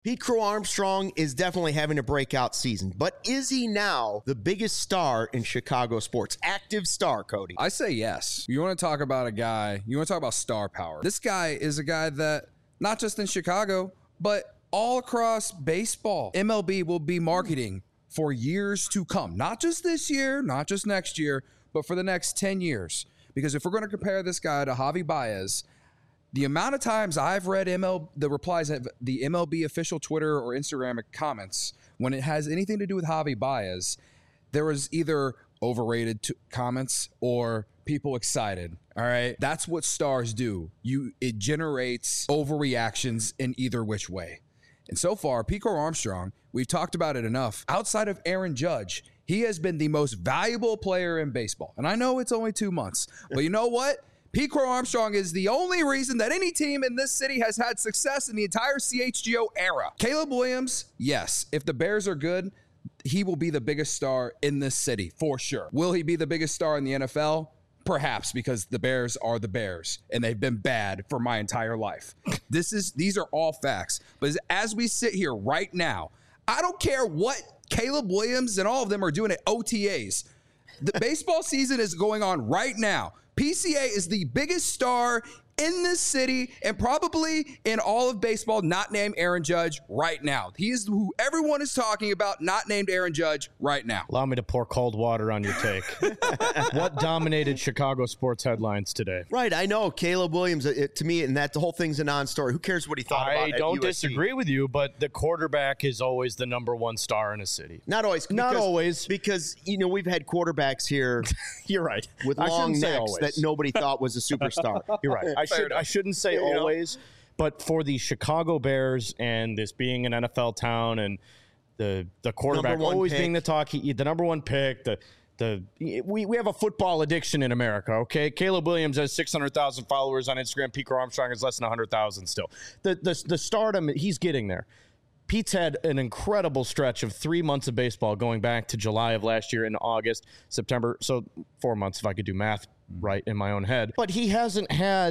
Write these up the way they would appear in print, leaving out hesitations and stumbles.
Pete Crow Armstrong is definitely having a breakout season, but is he now the biggest star in Chicago sports? Active star, Cody? I say yes. You want to talk about a guy, you want to talk about star power. This guy is a guy that, not just in Chicago, but all across baseball, MLB will be marketing for years to come. Not just this year, not just next year, but for the next 10 years. Because if we're going to compare this guy to Javi Baez, the amount of times I've read the replies of the MLB official Twitter or Instagram comments when it has anything to do with Javi Baez, there was either overrated comments or people excited. All right. That's what stars do. It generates overreactions in either which way. And so far, Pete Crow Armstrong, we've talked about it enough. Outside of Aaron Judge, he has been the most valuable player in baseball. And I know it's only 2 months, but you know what? Pete Crow Armstrong is the only reason that any team in this city has had success in the entire CHGO era. Caleb Williams, yes. If the Bears are good, he will be the biggest star in this city, for sure. Will he be the biggest star in the NFL? Perhaps, because the Bears are the Bears, and they've been bad for my entire life. These are all facts. But as we sit here right now, I don't care what Caleb Williams and all of them are doing at OTAs. The baseball season is going on right now. PCA is the biggest star in this city and probably in all of baseball, not named Aaron Judge right now. He is who everyone is talking about, not named Aaron Judge right now. Allow me to pour cold water on your take. What dominated Chicago sports headlines today? Right, I know. Caleb Williams, to me, and that the whole thing's a non-story. Who cares what he thought about it? I don't disagree with you, but the quarterback is always the number one star in a city. Not always. Not always. Because, we've had quarterbacks here. You're right. With long necks that nobody thought was a superstar. You're right. I shouldn't say always, but for the Chicago Bears and this being an NFL town and the quarterback always being the talk, the number one pick, we have a football addiction in America, okay? Caleb Williams has 600,000 followers on Instagram. Pete Crow Armstrong has less than 100,000 still. The stardom, he's getting there. Pete's had an incredible stretch of 3 months of baseball going back to July of last year into August, September. So 4 months if I could do math right in my own head. But he hasn't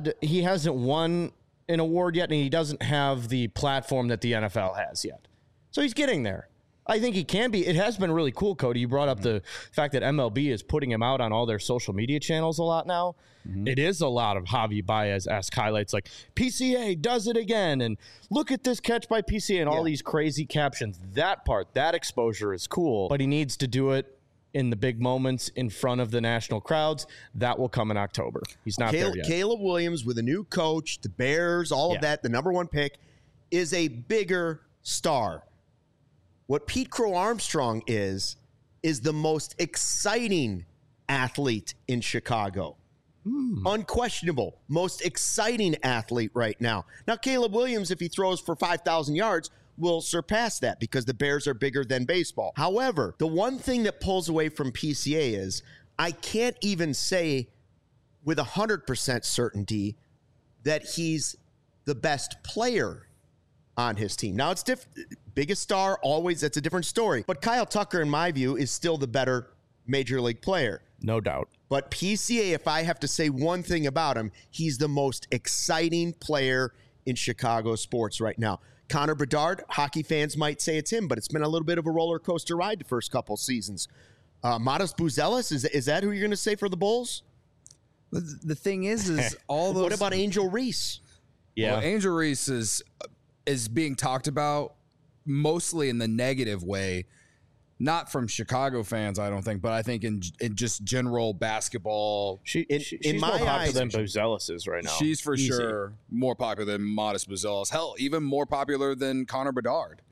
won an award yet, and he doesn't have the platform that the NFL has yet. So he's getting there. I think he can be. It has been really cool, Cody. You brought up the fact that MLB is putting him out on all their social media channels a lot now. Mm-hmm. It is a lot of Javi Baez-esque highlights like PCA does it again and look at this catch by PCA and all these crazy captions. That exposure is cool, but he needs to do it in the big moments in front of the national crowds. That will come in October. He's not there yet. Caleb Williams with a new coach, the Bears, all of that, the number one pick, is a bigger star. What Pete Crow Armstrong is the most exciting athlete in Chicago. Unquestionable. Most exciting athlete right now. Now, Caleb Williams, if he throws for 5,000 yards, will surpass that because the Bears are bigger than baseball. However, the one thing that pulls away from PCA is I can't even say with 100% certainty that he's the best player on his team. Now, it's different. Biggest star, always, that's a different story. But Kyle Tucker, in my view, is still the better major league player. No doubt. But PCA, if I have to say one thing about him, he's the most exciting player in Chicago sports right now. Connor Bedard, hockey fans might say it's him, but it's been a little bit of a roller coaster ride the first couple seasons. Modest Buzelis, is that who you're going to say for the Bulls? The thing is all those. What about Angel Reese? Yeah, well, Angel Reese is being talked about mostly in the negative way, not from Chicago fans, I don't think, but I think in just general basketball. She's more popular than Buzelis is right now. She's for sure more popular than Modest Buzelis. Hell, even more popular than Connor Bedard.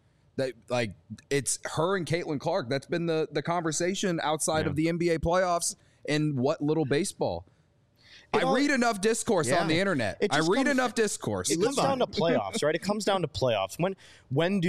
It's her and Caitlin Clark. That's been the conversation outside of the NBA playoffs and what little baseball. I read enough discourse on the internet. It comes down to playoffs, right? It comes down to playoffs. When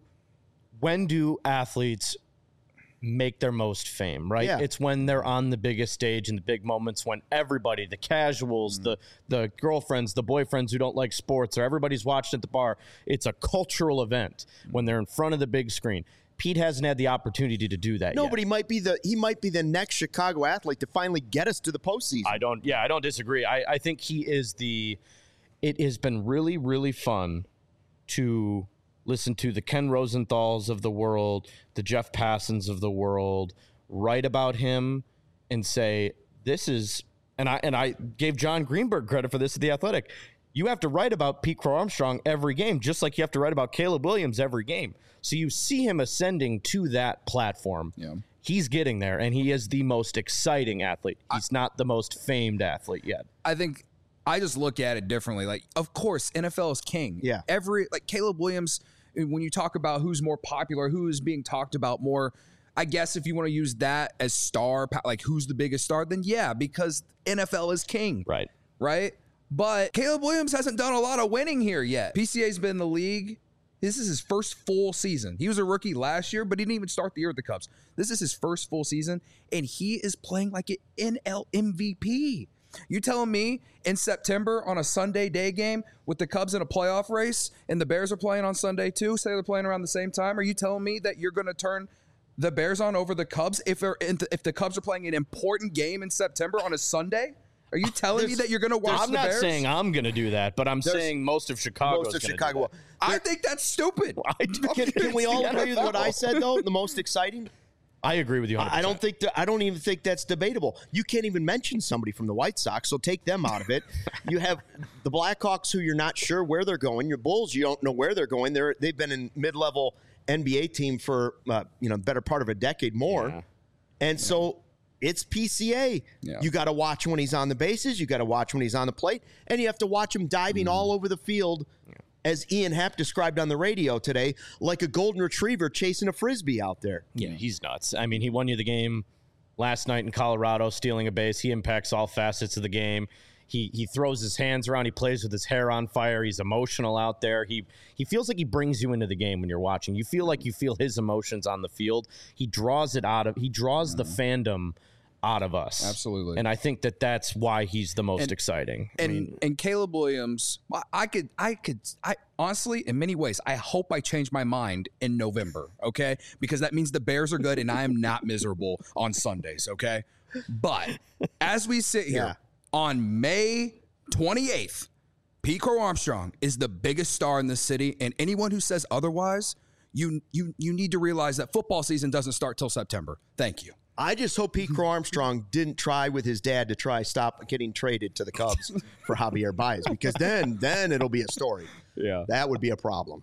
do athletes make their most fame, right? Yeah. It's when they're on the biggest stage in the big moments when everybody, the casuals, the girlfriends, the boyfriends who don't like sports, or everybody's watching at the bar. It's a cultural event when they're in front of the big screen. Pete hasn't had the opportunity to do that yet. But he might be the next Chicago athlete to finally get us to the postseason. I don't disagree. I think he is it has been really, really fun to listen to the Ken Rosenthals of the world, the Jeff Passons of the world, write about him and say, this is, and I gave John Greenberg credit for this at The Athletic. You have to write about Pete Crow Armstrong every game, just like you have to write about Caleb Williams every game. So you see him ascending to that platform. Yeah. He's getting there, and he is the most exciting athlete. He's not the most famed athlete yet. I think I just look at it differently. Like, of course, NFL is king. Yeah. Like Caleb Williams, when you talk about who's more popular, who is being talked about more, I guess if you want to use that as star, like who's the biggest star, then yeah, because NFL is king. Right. Right? But Caleb Williams hasn't done a lot of winning here yet. PCA's been in the league. This is his first full season. He was a rookie last year, but he didn't even start the year with the Cubs. This is his first full season, and he is playing like an NL MVP. You telling me in September on a Sunday day game with the Cubs in a playoff race and the Bears are playing on Sunday too, say they're playing around the same time, are you telling me that you're going to turn the Bears on over the Cubs if the Cubs are playing an important game in September on a Sunday? Are you telling me that you're going to watch the Bears? I'm not saying I'm going to do that, but I'm saying most of Chicago is going to do that. I think that's stupid. Can we all agree with what I said, though? The most exciting? I agree with you 100%. I don't even think that's debatable. You can't even mention somebody from the White Sox, so take them out of it. You have the Blackhawks, who you're not sure where they're going. Your Bulls, you don't know where they're going. They've been in mid-level NBA team for better part of a decade more. Yeah. And so it's PCA. Yeah. You got to watch when he's on the bases. You got to watch when he's on the plate. And you have to watch him diving all over the field, as Ian Happ described on the radio today, like a golden retriever chasing a Frisbee out there. Yeah, he's nuts. I mean, he won you the game last night in Colorado, stealing a base. He impacts all facets of the game. He throws his hands around. He plays with his hair on fire. He's emotional out there. He feels like he brings you into the game when you're watching. You feel like you feel his emotions on the field. He draws the fandom out of us. Absolutely. And I think that's why he's the most exciting. And Caleb Williams, I honestly, in many ways, I hope I change my mind in November, okay? Because that means the Bears are good and I am not miserable on Sundays, okay? But as we sit here on May 28th, Pete Crow Armstrong is the biggest star in the city, and anyone who says otherwise, you need to realize that football season doesn't start till September. Thank you. I just hope Pete Crow Armstrong didn't try with his dad to stop getting traded to the Cubs for Javier Baez, because then it'll be a story. Yeah. That would be a problem.